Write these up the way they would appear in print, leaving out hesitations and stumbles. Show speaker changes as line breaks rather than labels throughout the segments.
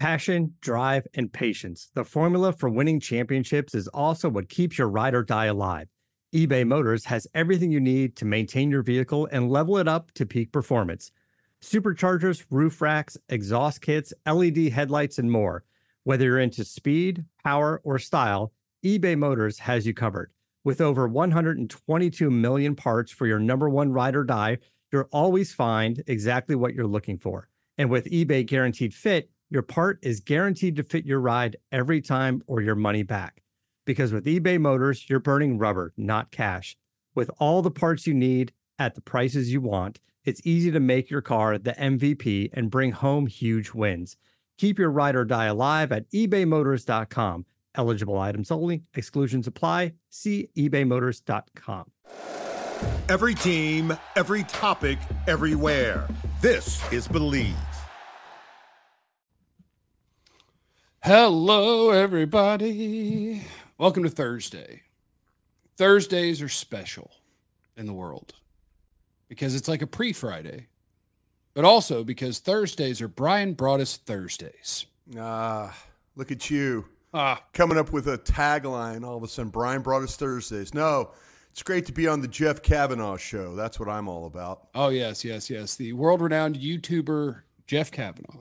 Passion, drive, and patience. The formula for winning championships is also what keeps your ride or die alive. eBay Motors has everything you need to maintain your vehicle and level it up to peak performance. Superchargers, roof racks, exhaust kits, LED headlights, and more. Whether you're into speed, power, or style, eBay Motors has you covered. With over 122 million parts for your number one ride or die, you'll always find exactly what you're looking for. And with eBay Guaranteed Fit, your part is guaranteed to fit your ride every time or your money back. Because with eBay Motors, you're burning rubber, not cash. With all the parts you need at the prices you want, it's easy to make your car the MVP and bring home huge wins. Keep your ride or die alive at ebaymotors.com. Eligible items only. Exclusions apply. See ebaymotors.com.
Every team, every topic, everywhere. This is Believe.
Hello, everybody. Welcome to Thursday. Thursdays are special in the world because it's like a pre-Friday, but also because Thursdays are Brian Broaddus Thursdays.
Look at you. Coming up with a tagline all of a sudden, Brian Broaddus Thursdays. No, it's great to be on the Jeff Kavanaugh show. That's what I'm all about.
Oh, yes. The world-renowned YouTuber, Jeff Kavanaugh.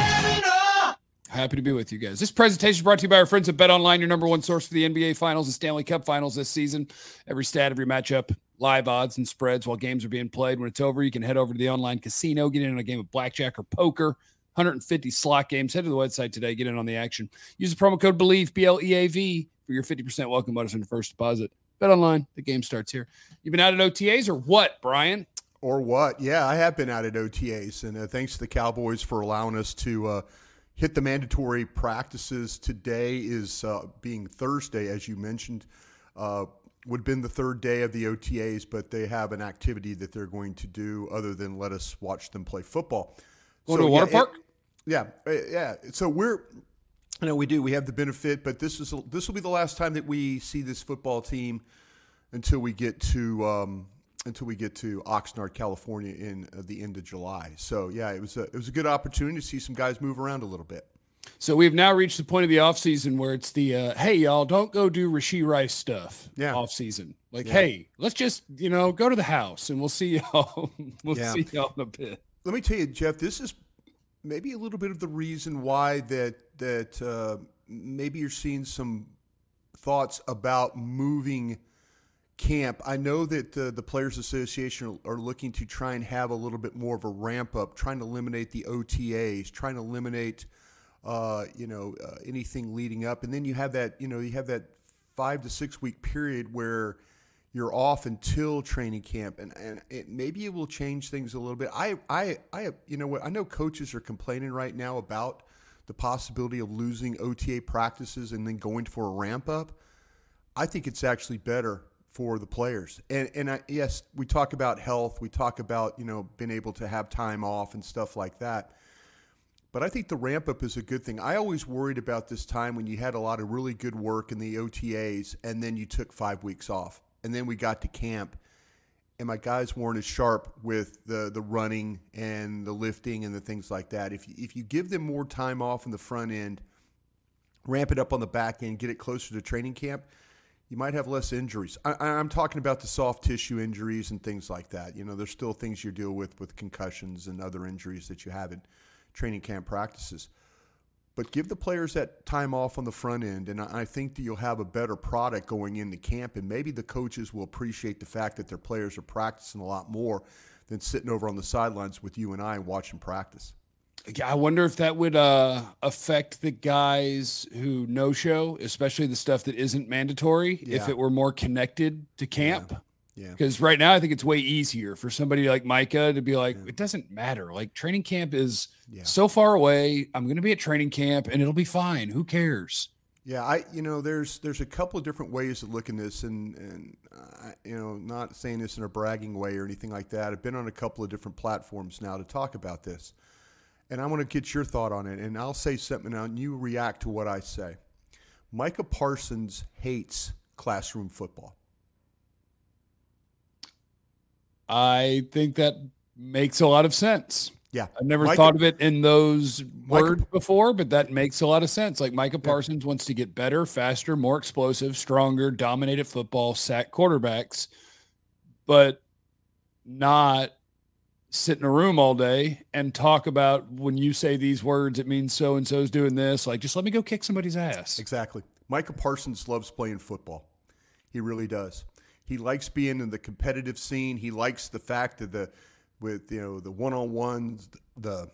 Happy to be with you guys. This presentation is brought to you by our friends at BetOnline, your number one source for the NBA Finals and Stanley Cup Finals this season. Every stat, every matchup, live odds and spreads while games are being played. When it's over, you can head over to the online casino, get in on a game of blackjack or poker, 150 slot games. Head to the website today, get in on the action. Use the promo code BELIEVE, BLEAV, for your 50% welcome bonus on your first deposit. BetOnline, the game starts here. You've been out at OTAs or what, Brian?
Or what? Yeah, I have been out at OTAs, and thanks to the Cowboys for allowing us to hit the mandatory practices. Today is being Thursday, as you mentioned. Would have been the third day of the OTAs, but they have an activity that they're going to do other than let us watch them play football.
Go to a water park?
Yeah. So we do. We have the benefit, but this will be the last time that we see this football team until we get to Oxnard, California in the end of July. So yeah, it was a good opportunity to see some guys move around a little bit.
So we've now reached the point of the offseason where it's the, hey, y'all, don't go do Rashee Rice stuff offseason. Hey, let's just, go to the house and we'll see y'all. See y'all in a bit.
Let me tell you, Jeff, this is maybe a little bit of the reason why that maybe you're seeing some thoughts about moving camp. I know that the Players Association are looking to try and have a little bit more of a ramp up, trying to eliminate the OTAs, trying to eliminate anything leading up, and then you have that 5 to 6 week period where you're off until training camp, and maybe it will change things a little bit. I know coaches are complaining right now about the possibility of losing OTA practices and then going for a ramp up. I think it's actually better for the players. And yes, we talk about health. We talk about, being able to have time off and stuff like that. But I think the ramp up is a good thing. I always worried about this time when you had a lot of really good work in the OTAs and then you took 5 weeks off. And then we got to camp and my guys weren't as sharp with the running and the lifting and the things like that. If you give them more time off in the front end, ramp it up on the back end, get it closer to training camp, you might have less injuries. I'm talking about the soft tissue injuries and things like that. There's still things you deal with concussions and other injuries that you have in training camp practices. But give the players that time off on the front end, and I think that you'll have a better product going into camp, and maybe the coaches will appreciate the fact that their players are practicing a lot more than sitting over on the sidelines with you and I watching practice.
I wonder if that would affect the guys who no-show, especially the stuff that isn't mandatory, if it were more connected to camp.
Yeah.
Because right now I think it's way easier for somebody like Micah to be like, it doesn't matter. Like training camp is so far away. I'm going to be at training camp and it'll be fine. Who cares?
Yeah, there's a couple of different ways of looking at this, and not saying this in a bragging way or anything like that. I've been on a couple of different platforms now to talk about this. And I want to get your thought on it, and I'll say something now, and you react to what I say. Micah Parsons hates classroom football.
I think that makes a lot of sense.
Yeah.
I've never thought of it in those words before, but that makes a lot of sense. Like Micah Parsons wants to get better, faster, more explosive, stronger, dominate at football, sack quarterbacks, but not sit in a room all day and talk about when you say these words, it means so-and-so's doing this. Like, just let me go kick somebody's ass.
Exactly. Micah Parsons loves playing football. He really does. He likes being in the competitive scene. He likes the fact that the one-on-ones, the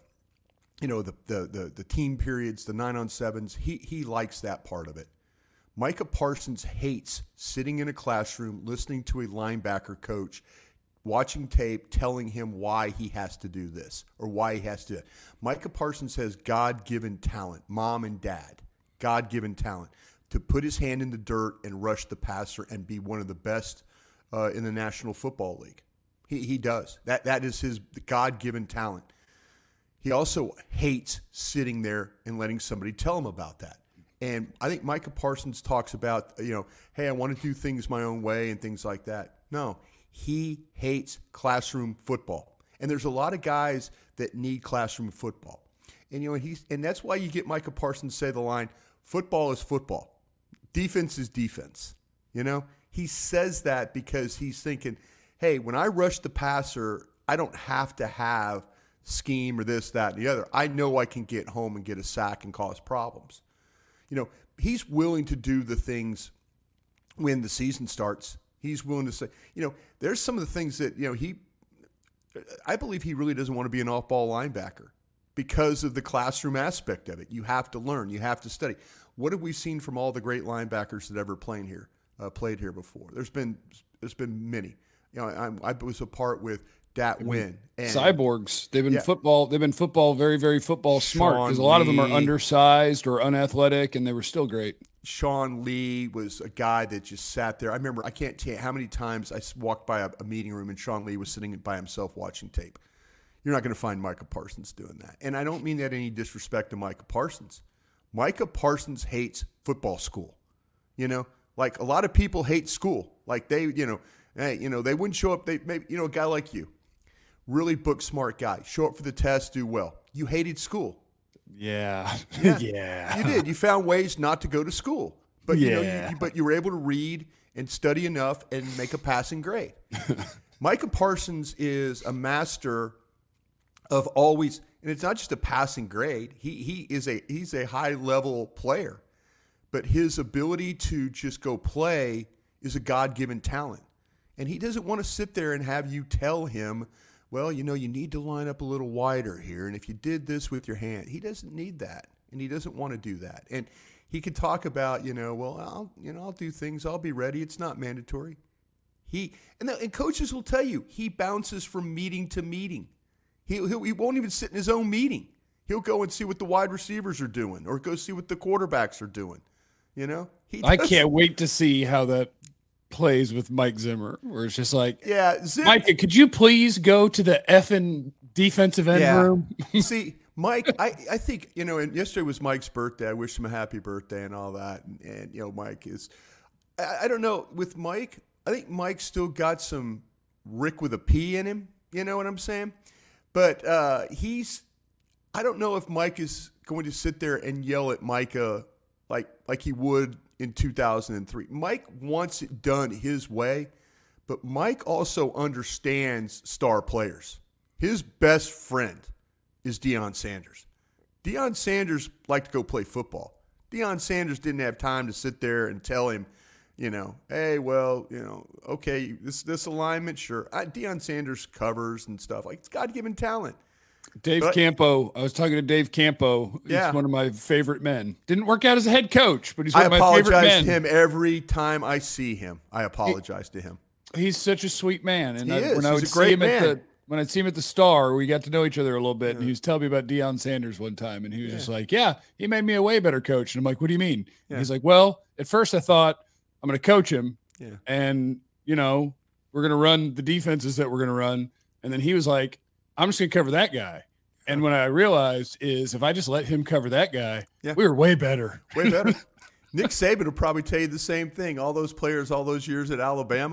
team periods, the 9-on-7s. He likes that part of it. Micah Parsons hates sitting in a classroom listening to a linebacker coach, watching tape, telling him why he has to do this or why he has to do it. Micah Parsons has God-given talent, mom and dad, God-given talent to put his hand in the dirt and rush the passer and be one of the best in the National Football League. He does. That is his God-given talent. He also hates sitting there and letting somebody tell him about that. And I think Micah Parsons talks about, hey, I want to do things my own way and things like that. No, he hates classroom football. And there's a lot of guys that need classroom football. And that's why you get Micah Parsons say the line, football is football. Defense is defense. He says that because he's thinking, hey, when I rush the passer, I don't have to have scheme or this, that, and the other. I know I can get home and get a sack and cause problems. He's willing to do the things when the season starts. He's willing to say, there's some of the things that, I believe he really doesn't want to be an off-ball linebacker because of the classroom aspect of it. You have to learn. You have to study. What have we seen from all the great linebackers that ever played here before? There's been many. I was a part with Dat Wynn. And
cyborgs. They've been football. They've been football very, very football smart because a lot of them are undersized or unathletic, and they were still great.
Sean Lee was a guy that just sat there. I remember, I can't tell you how many times I walked by a meeting room and Sean Lee was sitting by himself watching tape. You're not going to find Micah Parsons doing that. And I don't mean that any disrespect to Micah Parsons. Micah Parsons hates football school. Like a lot of people hate school. Like they wouldn't show up. A guy like you, really book smart guy, show up for the test, do well. You hated school.
Yeah.
Yeah. You did. You found ways not to go to school. But but you were able to read and study enough and make a passing grade. Micah Parsons is a master of always, and it's not just a passing grade. He's a high level player. But his ability to just go play is a God-given talent. And he doesn't want to sit there and have you tell him, well, you need to line up a little wider here. And if you did this with your hand, he doesn't need that. And he doesn't want to do that. And he could talk about, I'll do things. I'll be ready. It's not mandatory. And coaches will tell you, he bounces from meeting to meeting. He won't even sit in his own meeting. He'll go and see what the wide receivers are doing or go see what the quarterbacks are doing.
I can't wait to see how that plays with Mike Zimmer, where it's just like, Micah, could you please go to the effing defensive end room?
See, Mike, I think, and yesterday was Mike's birthday. I wish him a happy birthday and all that. And Mike is, I don't know, with Mike, I think Mike's still got some Rick with a P in him. You know what I'm saying? But I don't know if Mike is going to sit there and yell at Micah like he would in 2003. Mike wants it done his way, but Mike also understands star players. His best friend is Deion Sanders. Deion Sanders liked to go play football. Deion Sanders didn't have time to sit there and tell him, hey, well, okay, this alignment, sure. Deion Sanders covers and stuff. Like, it's God-given talent.
Campo. I was talking to Dave Campo. He's one of my favorite men. Didn't work out as a head coach, but he's one of my favorite men. I apologize
to him every time I see him. I apologize to him.
He's such a sweet man. And
He's a great man.
When I'd see him at the Star, we got to know each other a little bit, and he was telling me about Deion Sanders one time, and he was just like, he made me a way better coach. And I'm like, what do you mean? And he's like, well, at first I thought I'm going to coach him, and, we're going to run the defenses that we're going to run. And then he was like, I'm just going to cover that guy. And what I realized is if I just let him cover that guy, we were way better.
Way better. Nick Saban will probably tell you the same thing. All those players, all those years at Alabama,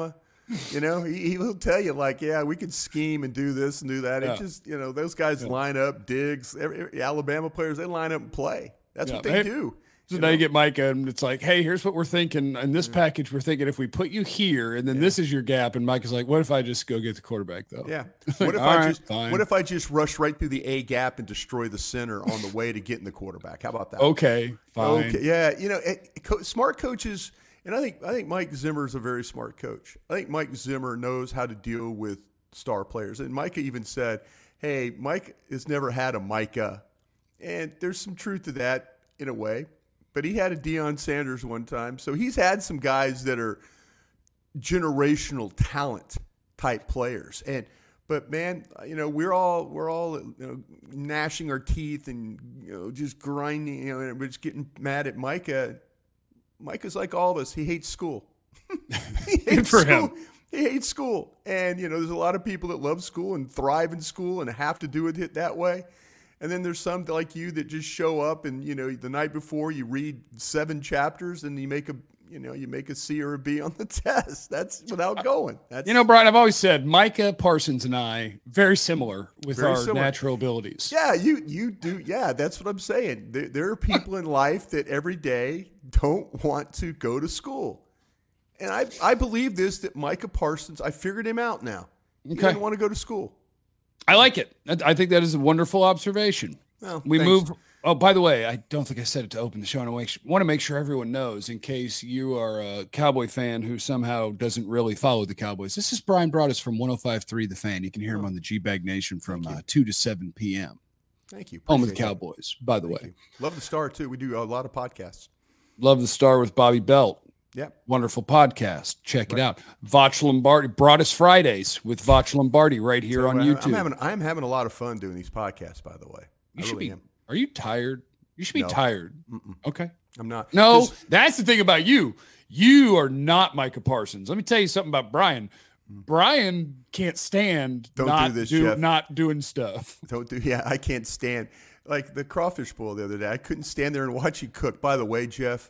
He will tell you like, yeah, we can scheme and do this and do that.
Yeah.
It's just, those guys line up, Diggs, Alabama players, they line up and play. That's what they do.
So now you get Micah, and it's like, hey, here's what we're thinking. In this package, we're thinking if we put you here, and then this is your gap. And Micah's like, what if I just go get the quarterback, though?
Yeah.
Like,
What if I just rush right through the A gap and destroy the center on the way to getting the quarterback? How about that?
Okay, fine.
Okay. Yeah. Smart coaches, and I think Mike Zimmer is a very smart coach. I think Mike Zimmer knows how to deal with star players. And Micah even said, hey, Mike has never had a Micah. And there's some truth to that in a way. But he had a Deion Sanders one time. So he's had some guys that are generational talent type players. But man, we're all gnashing our teeth and just grinding, and we're just getting mad at Micah. Micah's like all of us. He hates school.
Good for him.
He hates school. And there's a lot of people that love school and thrive in school and have to do it that way. And then there's some like you that just show up and, the night before you read 7 chapters and you make a C or a B on the test. That's without going.
Brian, I've always said Micah Parsons and I, very similar with natural abilities.
Yeah, you do. Yeah, that's what I'm saying. There are people in life that every day don't want to go to school. And I believe this, that Micah Parsons, I figured him out now. He doesn't want to go to school.
I like it. I think that is a wonderful observation.
Well,
we
thanks.
move. Oh, by the way, I don't think I said it to open the show. And I want to make sure everyone knows, in case you are a Cowboy fan who somehow doesn't really follow the Cowboys. This is Brian Broaddus from 105.3 The Fan. You can hear him on the G-Bag Nation from 2 to 7 p.m.
Thank you.
Home of the Cowboys, by the way.
Love the Star, too. We do a lot of podcasts.
Love the Star with Bobby Belt.
Yep.
Wonderful podcast. Check it out. Voch Lombardi, Broaddus Fridays with Voch Lombardi right here on YouTube.
I'm having a lot of fun doing these podcasts, by the way.
You should be. Are you tired? You should be tired. Okay.
I'm not.
No, that's the thing about you. You are not Micah Parsons. Let me tell you something about Brian. Brian can't stand not doing stuff.
I can't stand. Like the crawfish boil the other day. I couldn't stand there and watch you cook. By the way, Jeff,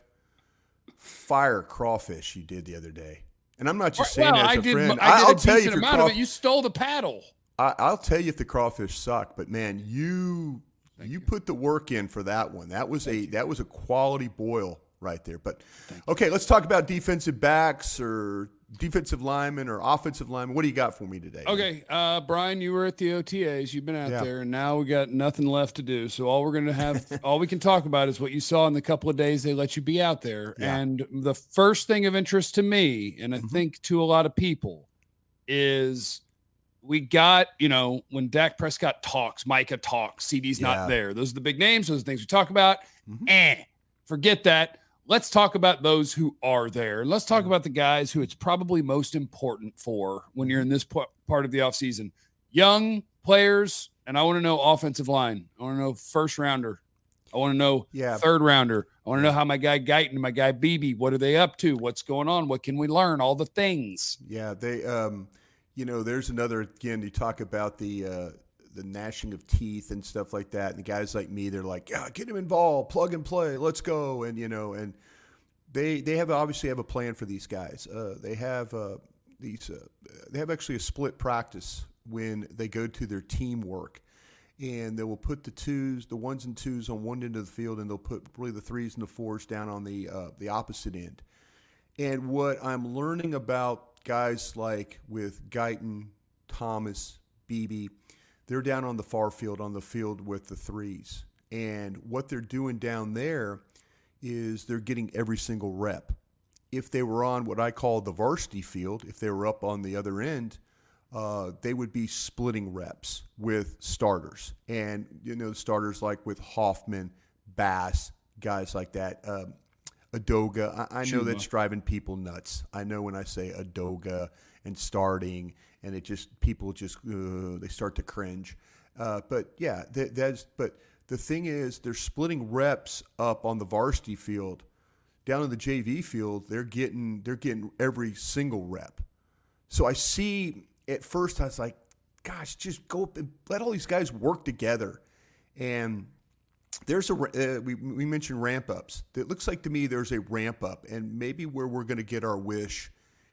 fire crawfish you did the other day. And I'm not just saying that as a friend.
I'll tell you if amount of it. You stole the paddle.
I'll tell you if the crawfish suck, but man, you put the work in for that one. That was a quality boil right there. But okay, let's talk about defensive backs or defensive linemen or offensive linemen. What do you got for me today?
Okay, Brian, you were at the OTAs. You've been out there, and now we got nothing left to do. So all we can talk about is what you saw in the couple of days they let you be out there. Yeah. And the first thing of interest to me, and I think to a lot of people, is we got, when Dak Prescott talks, Micah talks, CD's not there. Those are the big names. Those are the things we talk about. Forget that. Let's talk about those who are there. And let's talk about the guys who it's probably most important for when you're in this part of the offseason. Young players, and I want to know offensive line. I want to know first rounder. I want to know third rounder. I want to know how my guy Guyton and my guy Beebe, what are they up to? What's going on? What can we learn? All the things.
Yeah, they there's another, again, you talk about the gnashing of teeth and stuff like that. And the guys like me, they're like, yeah, get him involved, plug and play, let's go. And, and they obviously have a plan for these guys. They have actually a split practice when they go to their teamwork. And they will put the ones and twos on one end of the field, and they'll put really the threes and the fours down on the opposite end. And what I'm learning about guys like with Guyton, Thomas, Beebe, they're down on the far field, on the field with the threes. And what they're doing down there is they're getting every single rep. If they were on what I call the varsity field, if they were up on the other end, they would be splitting reps with starters. And, starters like with Hoffman, Bass, guys like that. Adoga, I know that's driving people nuts. I know when I say Adoga and starting, and people they start to cringe. But yeah, but the thing is, they're splitting reps up on the varsity field. Down in the JV field, they're getting every single rep. So I see. At first, I was like, "Gosh, just go up and let all these guys work together." And there's we mentioned ramp ups. It looks like to me there's a ramp up, and maybe where we're going to get our wish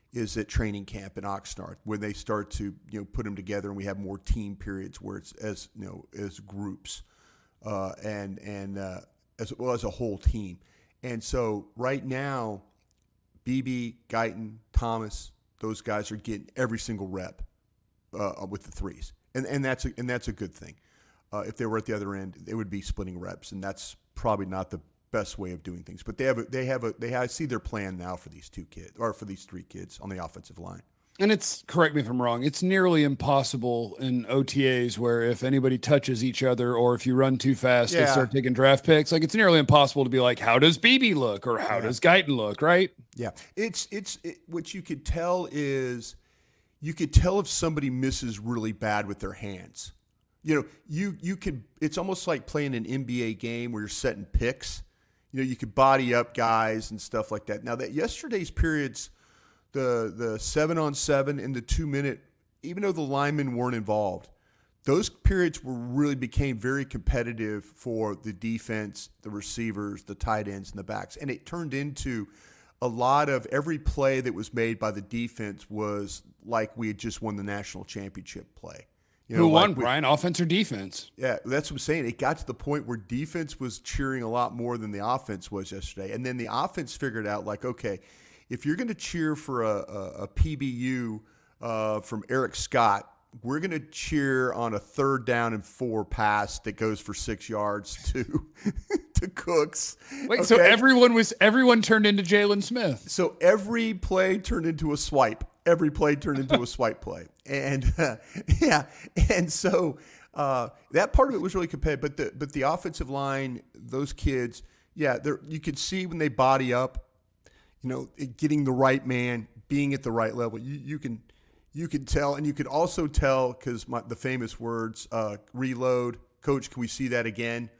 is at training camp in Oxnard when they start to put them together and we have more team periods where it's as groups and as well as a whole team. And so right now, BB, Guyton, Thomas, those guys are getting every single rep with the threes, and that's a good thing. If they were at the other end, they would be splitting reps, and that's probably not the best way of doing things. But I see their plan now for these two kids or for these three kids on the offensive line.
And correct me if I'm wrong, it's nearly impossible in OTAs where if anybody touches each other or if you run too fast, they start taking draft picks. Like, it's nearly impossible to be like, how does BB look or how does Guyton look, right?
Yeah. What you could tell is if somebody misses really bad with their hands. You could, it's almost like playing an NBA game where you're setting picks. You could body up guys and stuff like that. Now, that yesterday's periods, the 7-on-7 and the 2-minute, even though the linemen weren't involved, those periods really became very competitive for the defense, the receivers, the tight ends, and the backs. And it turned into a lot of every play that was made by the defense was like we had just won the national championship play.
Who won, Brian? Offense or defense?
Yeah, that's what I'm saying. It got to the point where defense was cheering a lot more than the offense was yesterday. And then the offense figured out, like, okay, if you're going to cheer for a PBU from Eric Scott, we're going to cheer on a 3rd down and 4 pass that goes for 6 yards to Cooks.
Wait, okay. So everyone turned into Jalen Smith.
So every play turned into a swipe. Every play turned into a swipe play. And and so that part of it was really competitive. But the offensive line, those kids, you could see when they body up, getting the right man, being at the right level. You can tell, and you could also tell because the famous words, reload, coach, can we see that again?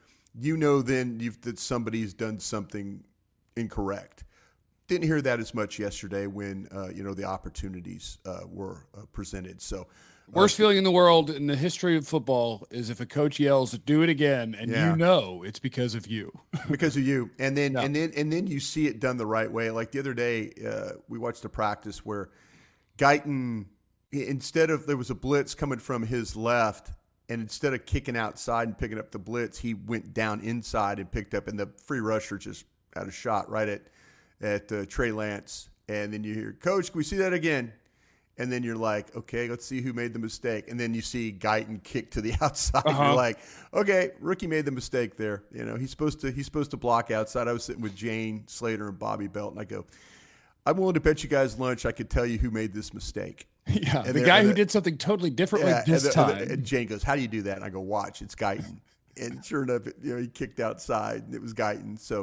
Then that somebody's done something incorrect. Didn't hear that as much yesterday when the opportunities were presented. So
worst feeling in the world in the history of football is if a coach yells, "Do it again," and it's because of you.
Because of you. And then you see it done the right way. Like the other day, we watched a practice where Guyton, there was a blitz coming from his left, and instead of kicking outside and picking up the blitz, he went down inside and picked up, and the free rusher just had a shot right at Trey Lance. And then you hear, "Coach, can we see that again?" And then you're like, okay, let's see who made the mistake. And then you see Guyton kick to the outside. You're like, okay, rookie made the mistake there. He's supposed to block outside. I was sitting with Jane Slater and Bobby Belt, and I go, I'm willing to bet you guys lunch I could tell you who made this mistake.
Yeah, and the guy who did something totally differently this time.
And Jane goes, how do you do that? And I go, watch, it's Guyton. And sure enough, he kicked outside, and it was Guyton. So,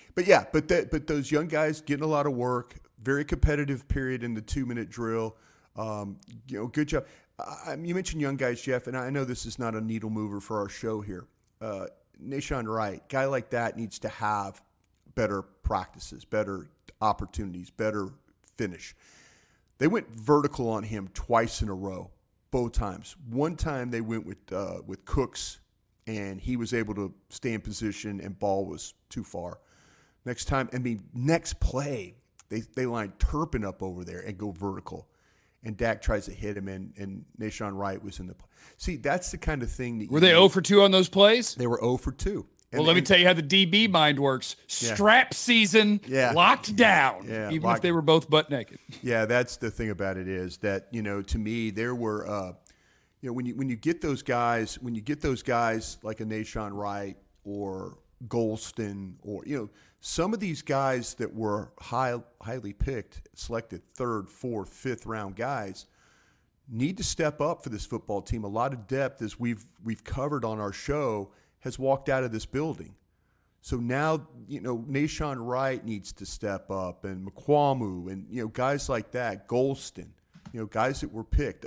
but those young guys getting a lot of work, very competitive period in the 2-minute drill. Good job. You mentioned young guys, Jeff, and I know this is not a needle mover for our show here. Nahshon Wright, guy like that needs to have better practices, better opportunities, better finish. They went vertical on him twice in a row, both times. One time they went with Cooks, and he was able to stay in position, and ball was too far. Next play, they line Turpin up over there and go vertical. And Dak tries to hit him, and Nahshon Wright was in the play. See, that's the kind of thing that
were they 0 for 2 on those plays?
They were 0 for 2.
Let me tell you how the DB mind works. Strap season, locked down, even if they were both butt naked.
Yeah, that's the thing about it is that, to me, there were, when you get those guys, like a Nahshon Wright or Golston or, some of these guys that were highly picked, selected 3rd, 4th, 5th round guys need to step up for this football team. A lot of depth, as we've covered on our show, has walked out of this building. So now, Nahshon Wright needs to step up, and McQuamu, and, guys like that, Golston, guys that were picked,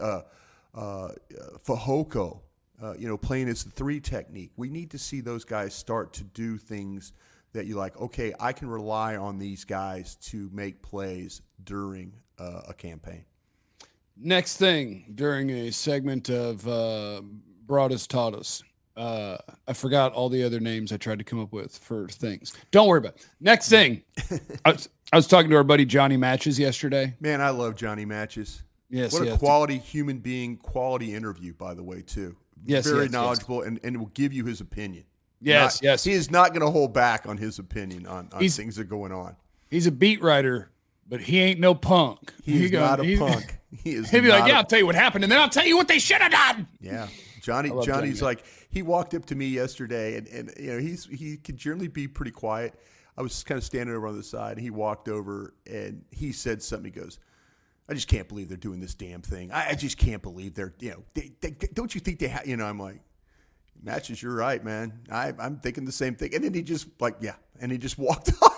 Fehoko, playing as the 3 technique. We need to see those guys start to do things that you're like, okay, I can rely on these guys to make plays during a campaign.
Next thing, during a segment of Broadus Taught Us, I forgot all the other names I tried to come up with for things. Don't worry about it. Next thing, I was talking to our buddy Johnny Matches yesterday.
Man, I love Johnny Matches.
Yes,
what a quality human being, quality interview, by the way, too.
Yes,
very knowledgeable, and will give you his opinion.
Yes.
He is not going to hold back on his opinion on things that are going on.
He's a beat writer, but he ain't no punk.
He's not a punk.
He'd be like, I'll tell you what happened, and then I'll tell you what they should have done.
Yeah. Johnny's like, he walked up to me yesterday, and he could generally be pretty quiet. I was kind of standing over on the side, and he walked over, and he said something. He goes, I just can't believe they're doing this damn thing. I just can't believe they're, they don't you think they have, I'm like, Matches, you're right, man. I'm thinking the same thing. And then he just and he just walked off.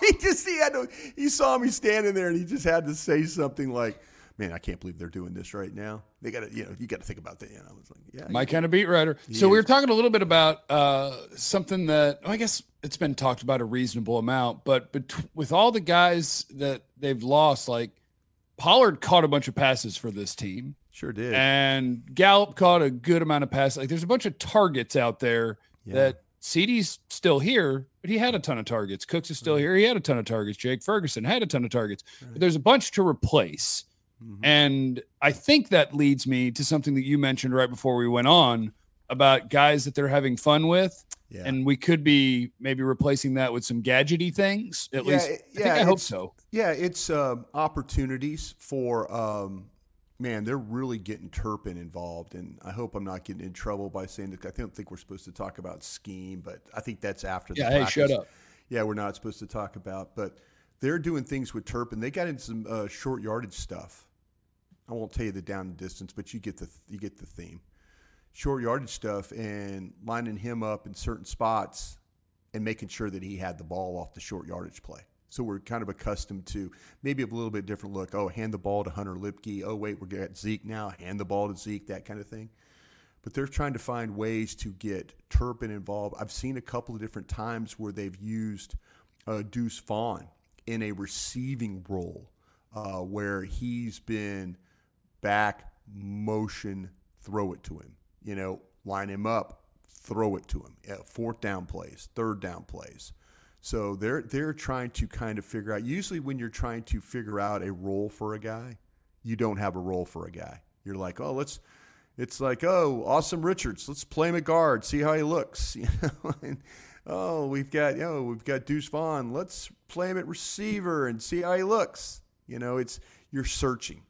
He saw me standing there, and he just had to say something like, man, I can't believe they're doing this right now. They got to, you got to think about that. I was like, yeah.
My kind of beat writer. So we were talking a little bit about something that, I guess it's been talked about a reasonable amount, but with all the guys that they've lost, like Pollard caught a bunch of passes for this team.
Sure did.
And Gallup caught a good amount of passes. Like there's a bunch of targets out there that CeeDee's still here, but he had a ton of targets. Cooks is still here. He had a ton of targets. Jake Ferguson had a ton of targets. Right. But there's a bunch to replace. Mm-hmm. And I think that leads me to something that you mentioned right before we went on about guys that they're having fun with. Yeah. And we could be maybe replacing that with some gadgety things. At least I hope so. Yeah,
it's opportunities for man, they're really getting Turpin involved, and I hope I'm not getting in trouble by saying that. I don't think we're supposed to talk about scheme, but I think that's after the practice.
Hey, shut up.
Yeah, we're not supposed to talk about, but they're doing things with Turpin. They got into some short yardage stuff. I won't tell you the down and distance, but you get the theme. Short yardage stuff and lining him up in certain spots and making sure that he had the ball off the short yardage play. So we're kind of accustomed to maybe a little bit different look. Oh, hand the ball to Hunter Lipke. Oh, wait, we're at Zeke now. Hand the ball to Zeke, that kind of thing. But they're trying to find ways to get Turpin involved. I've seen a couple of different times where they've used Deuce Vaughn in a receiving role where he's been back, motion, throw it to him. Line him up, throw it to him. Fourth down plays, third down plays. So they're trying to kind of figure out. Usually when you're trying to figure out a role for a guy, you don't have a role for a guy. You're like, it's like, Awesome Richards, let's play him at guard, see how he looks. And, we've got Deuce Vaughn, let's play him at receiver and see how he looks. You're searching.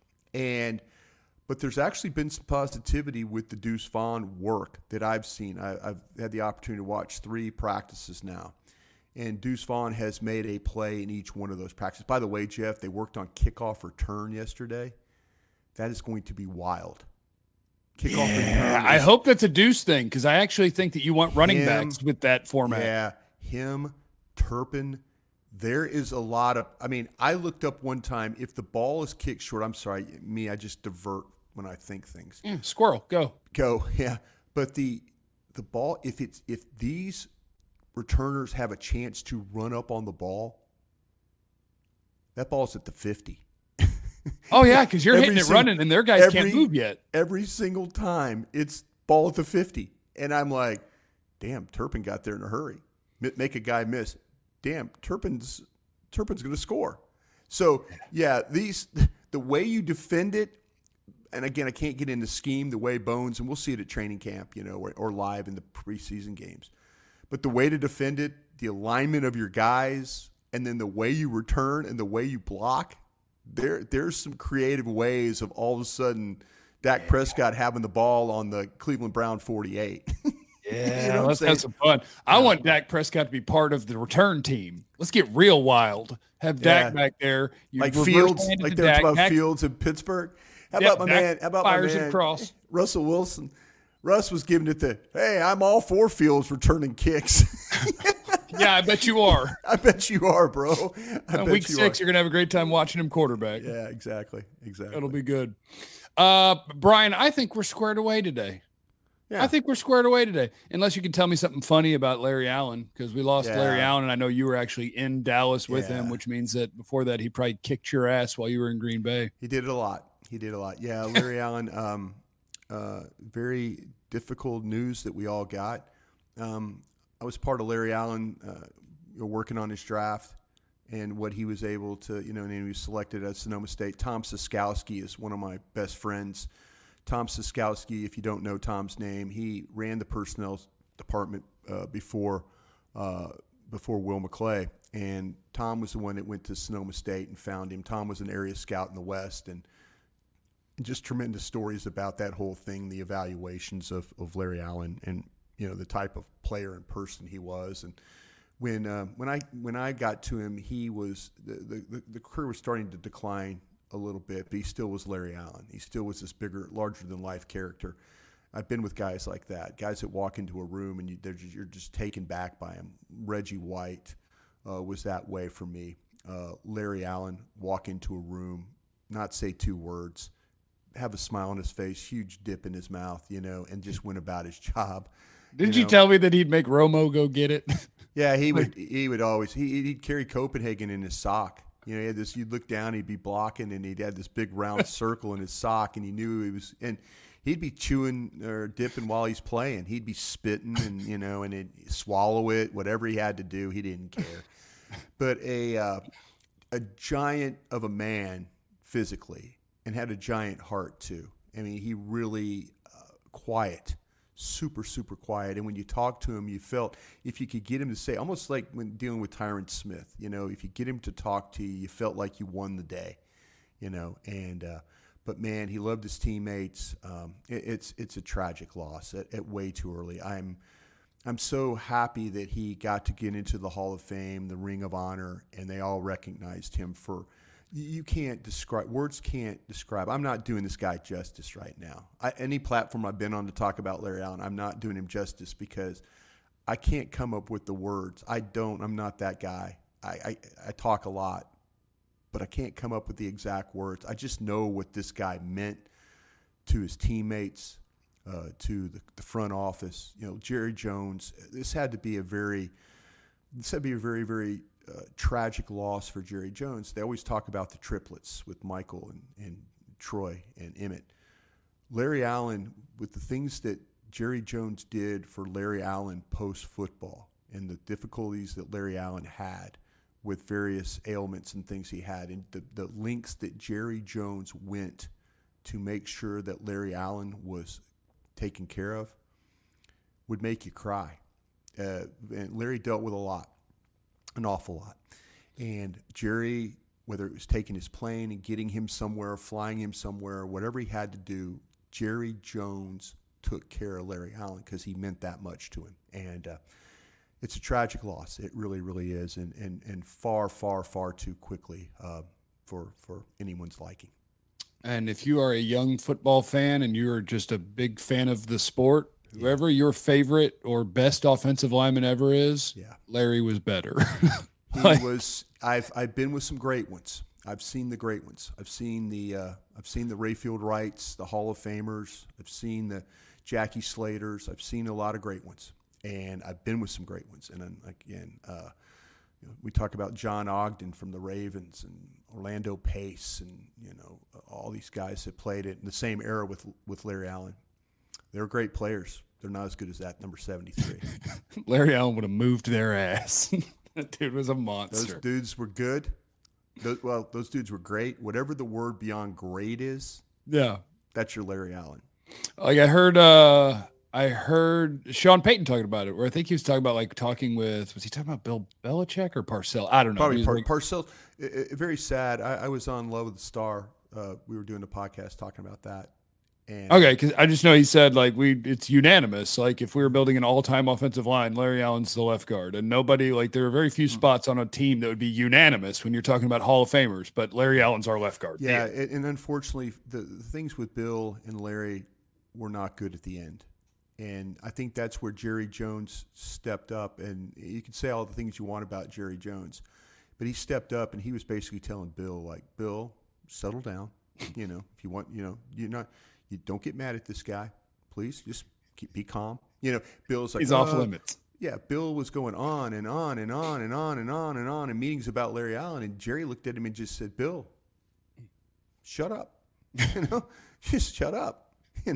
But there's actually been some positivity with the Deuce Vaughn work that I've seen. I've had the opportunity to watch 3 practices now. And Deuce Vaughn has made a play in each one of those practices. By the way, Jeff, they worked on kickoff return yesterday. That is going to be wild. Kickoff return.
I hope that's a Deuce thing because I actually think that you want running backs with that format.
Yeah, him, Turpin. There is a lot of – I looked up one time, if the ball is kicked short – I'm sorry, I just divert when I think things.
Yeah, squirrel, go,
yeah. But the ball, if these – returners have a chance to run up on the ball, that ball's at the 50.
Oh, yeah, because you're hitting it running, and their guys can't move yet.
Every single time, it's ball at the 50. And I'm like, damn, Turpin got there in a hurry. Make a guy miss. Damn, Turpin's going to score. So, yeah, the way you defend it, and again, I can't get into scheme the way Bones, and we'll see it at training camp, or live in the preseason games. But the way to defend it, the alignment of your guys, and then the way you return and the way you block, there's some creative ways of all of a sudden Dak Prescott having the ball on the Cleveland Brown 48.
Yeah, let's have some fun. I want Dak Prescott to be part of the return team. Let's get real wild. Have Dak back there.
Like Fields, like they're talking about Fields in Pittsburgh. How about my man,
Cross.
Russell Wilson? Russ was giving it hey, I'm all for Fields returning kicks.
Yeah, I bet you are.
I bet you are, bro.
Week 6, you're going to have a great time watching him quarterback.
Yeah, exactly.
It'll be good. Brian, I think we're squared away today. Yeah. I think we're squared away today. Unless you can tell me something funny about Larry Allen, because we lost Larry Allen, and I know you were actually in Dallas with him, which means that before that he probably kicked your ass while you were in Green Bay.
He did it a lot. Yeah, Larry Allen, very difficult news that we all got. I was part of Larry Allen working on his draft, and what he was able to, and he was selected at Sonoma State. Tom Siskowski is one of my best friends. Tom Siskowski, if you don't know Tom's name, he ran the personnel department before Will McClay, and Tom was the one that went to Sonoma State and found him. Tom was an area scout in the West, and just tremendous stories about that whole thing, the evaluations of Larry Allen, and the type of player and person he was. And when I got to him, he was the career was starting to decline a little bit, but he still was Larry Allen. He still was this bigger, larger than life character. I've been with guys like that, guys that walk into a room and you're just taken back by him. Reggie White was that way for me. Larry Allen, walk into a room, not say two words, have a smile on his face, huge dip in his mouth, and just went about his job.
Didn't you tell me that he'd make Romo go get it?
Yeah, he would always he'd carry Copenhagen in his sock. He had this. You'd look down, he'd be blocking, and he'd had this big round circle in his sock, and you knew he was. And he'd be chewing or dipping while he's playing. He'd be spitting, and and he'd swallow it. Whatever he had to do, he didn't care. But a giant of a man physically, and had a giant heart too. I mean, he really quiet. Super, super quiet. And when you talked to him, you felt if you could get him to say, almost like when dealing with Tyron Smith, if you get him to talk to you, you felt like you won the day, but man, he loved his teammates. It's a tragic loss at way too early. I'm so happy that he got to get into the Hall of Fame, the Ring of Honor, and they all recognized him for. You can't describe, words can't describe. I'm not doing this guy justice right now. Any platform I've been on to talk about Larry Allen, I'm not doing him justice because I can't come up with the words. I'm not that guy. I talk a lot, but I can't come up with the exact words. I just know what this guy meant to his teammates, to the front office. Jerry Jones, this had to be a very, very tragic loss for Jerry Jones. They always talk about the triplets with Michael and Troy and Emmett. Larry Allen, with the things that Jerry Jones did for Larry Allen post-football and the difficulties that Larry Allen had with various ailments and things he had, and the links that Jerry Jones went to make sure that Larry Allen was taken care of, would make you cry. And Larry dealt with a lot. An awful lot. And Jerry, whether it was taking his plane and getting him somewhere, flying him somewhere, whatever he had to do, Jerry Jones took care of Larry Allen because he meant that much to him. And it's a tragic loss. It really, really is. And far, far, far too quickly for anyone's liking.
And if you are a young football fan and you're just a big fan of the sport, whoever your favorite or best offensive lineman ever is, Larry was better.
He was. I've been with some great ones. I've seen the great ones. I've seen the Rayfield Wrights, the Hall of Famers. I've seen the Jackie Slaters. I've seen a lot of great ones, and I've been with some great ones. And then again, we talk about John Ogden from the Ravens and Orlando Pace, and all these guys that played it in the same era with Larry Allen. They're great players. They're not as good as that number 73.
Larry Allen would have moved their ass. That dude was a monster.
Those dudes were good. Those dudes were great. Whatever the word beyond great is, that's your Larry Allen.
Like I heard Sean Payton talking about it, where I think he was talking about was he talking about Bill Belichick or Parcells? I don't know.
Probably Parcells. Very sad. I was on Love of the Star. We were doing a podcast talking about that.
Okay, because I just know he said it's unanimous. Like if we were building an all-time offensive line, Larry Allen's the left guard, and nobody there are very few spots on a team that would be unanimous when you're talking about Hall of Famers. But Larry Allen's our left guard.
Yeah, and unfortunately, the things with Bill and Larry were not good at the end, and I think that's where Jerry Jones stepped up. And you can say all the things you want about Jerry Jones, but he stepped up and he was basically telling Bill, Bill, settle down. If you want, you're not. You don't get mad at this guy, please. Just be calm. Bill's like
he's off limits.
Yeah, Bill was going on and on and on and on and on and on in meetings about Larry Allen, and Jerry looked at him and just said, "Bill, shut up. Just shut up.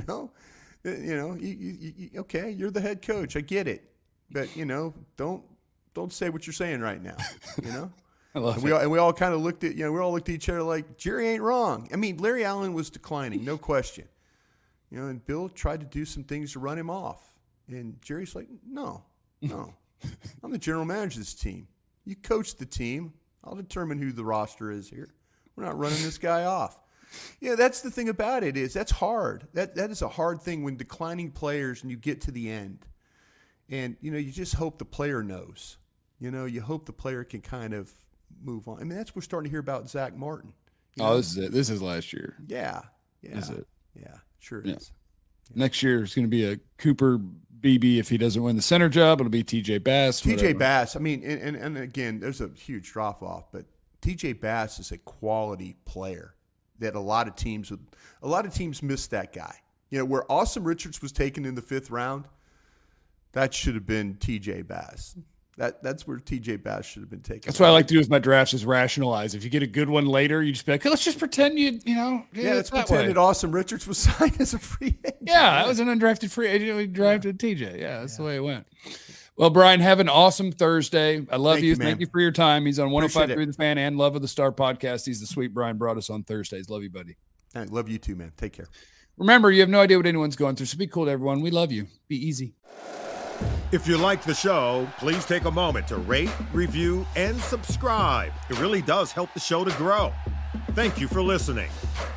Okay, you're the head coach. I get it, but don't say what you're saying right now.
I love
And we all kind of looked at, we all looked at each other like, Jerry ain't wrong. I mean, Larry Allen was declining, no question. And Bill tried to do some things to run him off. And Jerry's like, no. I'm the general manager of this team. You coach the team. I'll determine who the roster is here. We're not running this guy off. That's the thing about it is that's hard. That is a hard thing when declining players and you get to the end. And, you just hope the player knows. You hope the player can kind of move on. I mean, that's what we're starting to hear about Zach Martin.
This is it. This is last year.
Yeah.
This is it.
Yeah, sure is.
Yeah. Next year is going to be a Cooper Beebe. If he doesn't win the center job, it'll be TJ Bass.
TJ Bass. I mean, and again, there's a huge drop off, but TJ Bass is a quality player that a lot of teams miss that guy. Where Austin Richards was taken in the 5th round, that should have been TJ Bass. That's where TJ Bass should have been taken.
That's what I like to do with my drafts is rationalize. If you get a good one later, you just be like, let's just pretend
let's pretend that Austin Richards was signed as a free agent.
Yeah, that was an undrafted free agent. We drafted TJ. Yeah, that's the way it went. Well, Brian, have an awesome Thursday. I love you. Thank you for your time. He's on 105.3 The Fan and Love of the Star podcast. He's the sweet Brian Broaddus on Thursdays. Love you, buddy.
I love you too, man. Take care.
Remember, you have no idea what anyone's going through, so be cool to everyone. We love you. Be easy.
If you like the show, please take a moment to rate, review, and subscribe. It really does help the show to grow. Thank you for listening.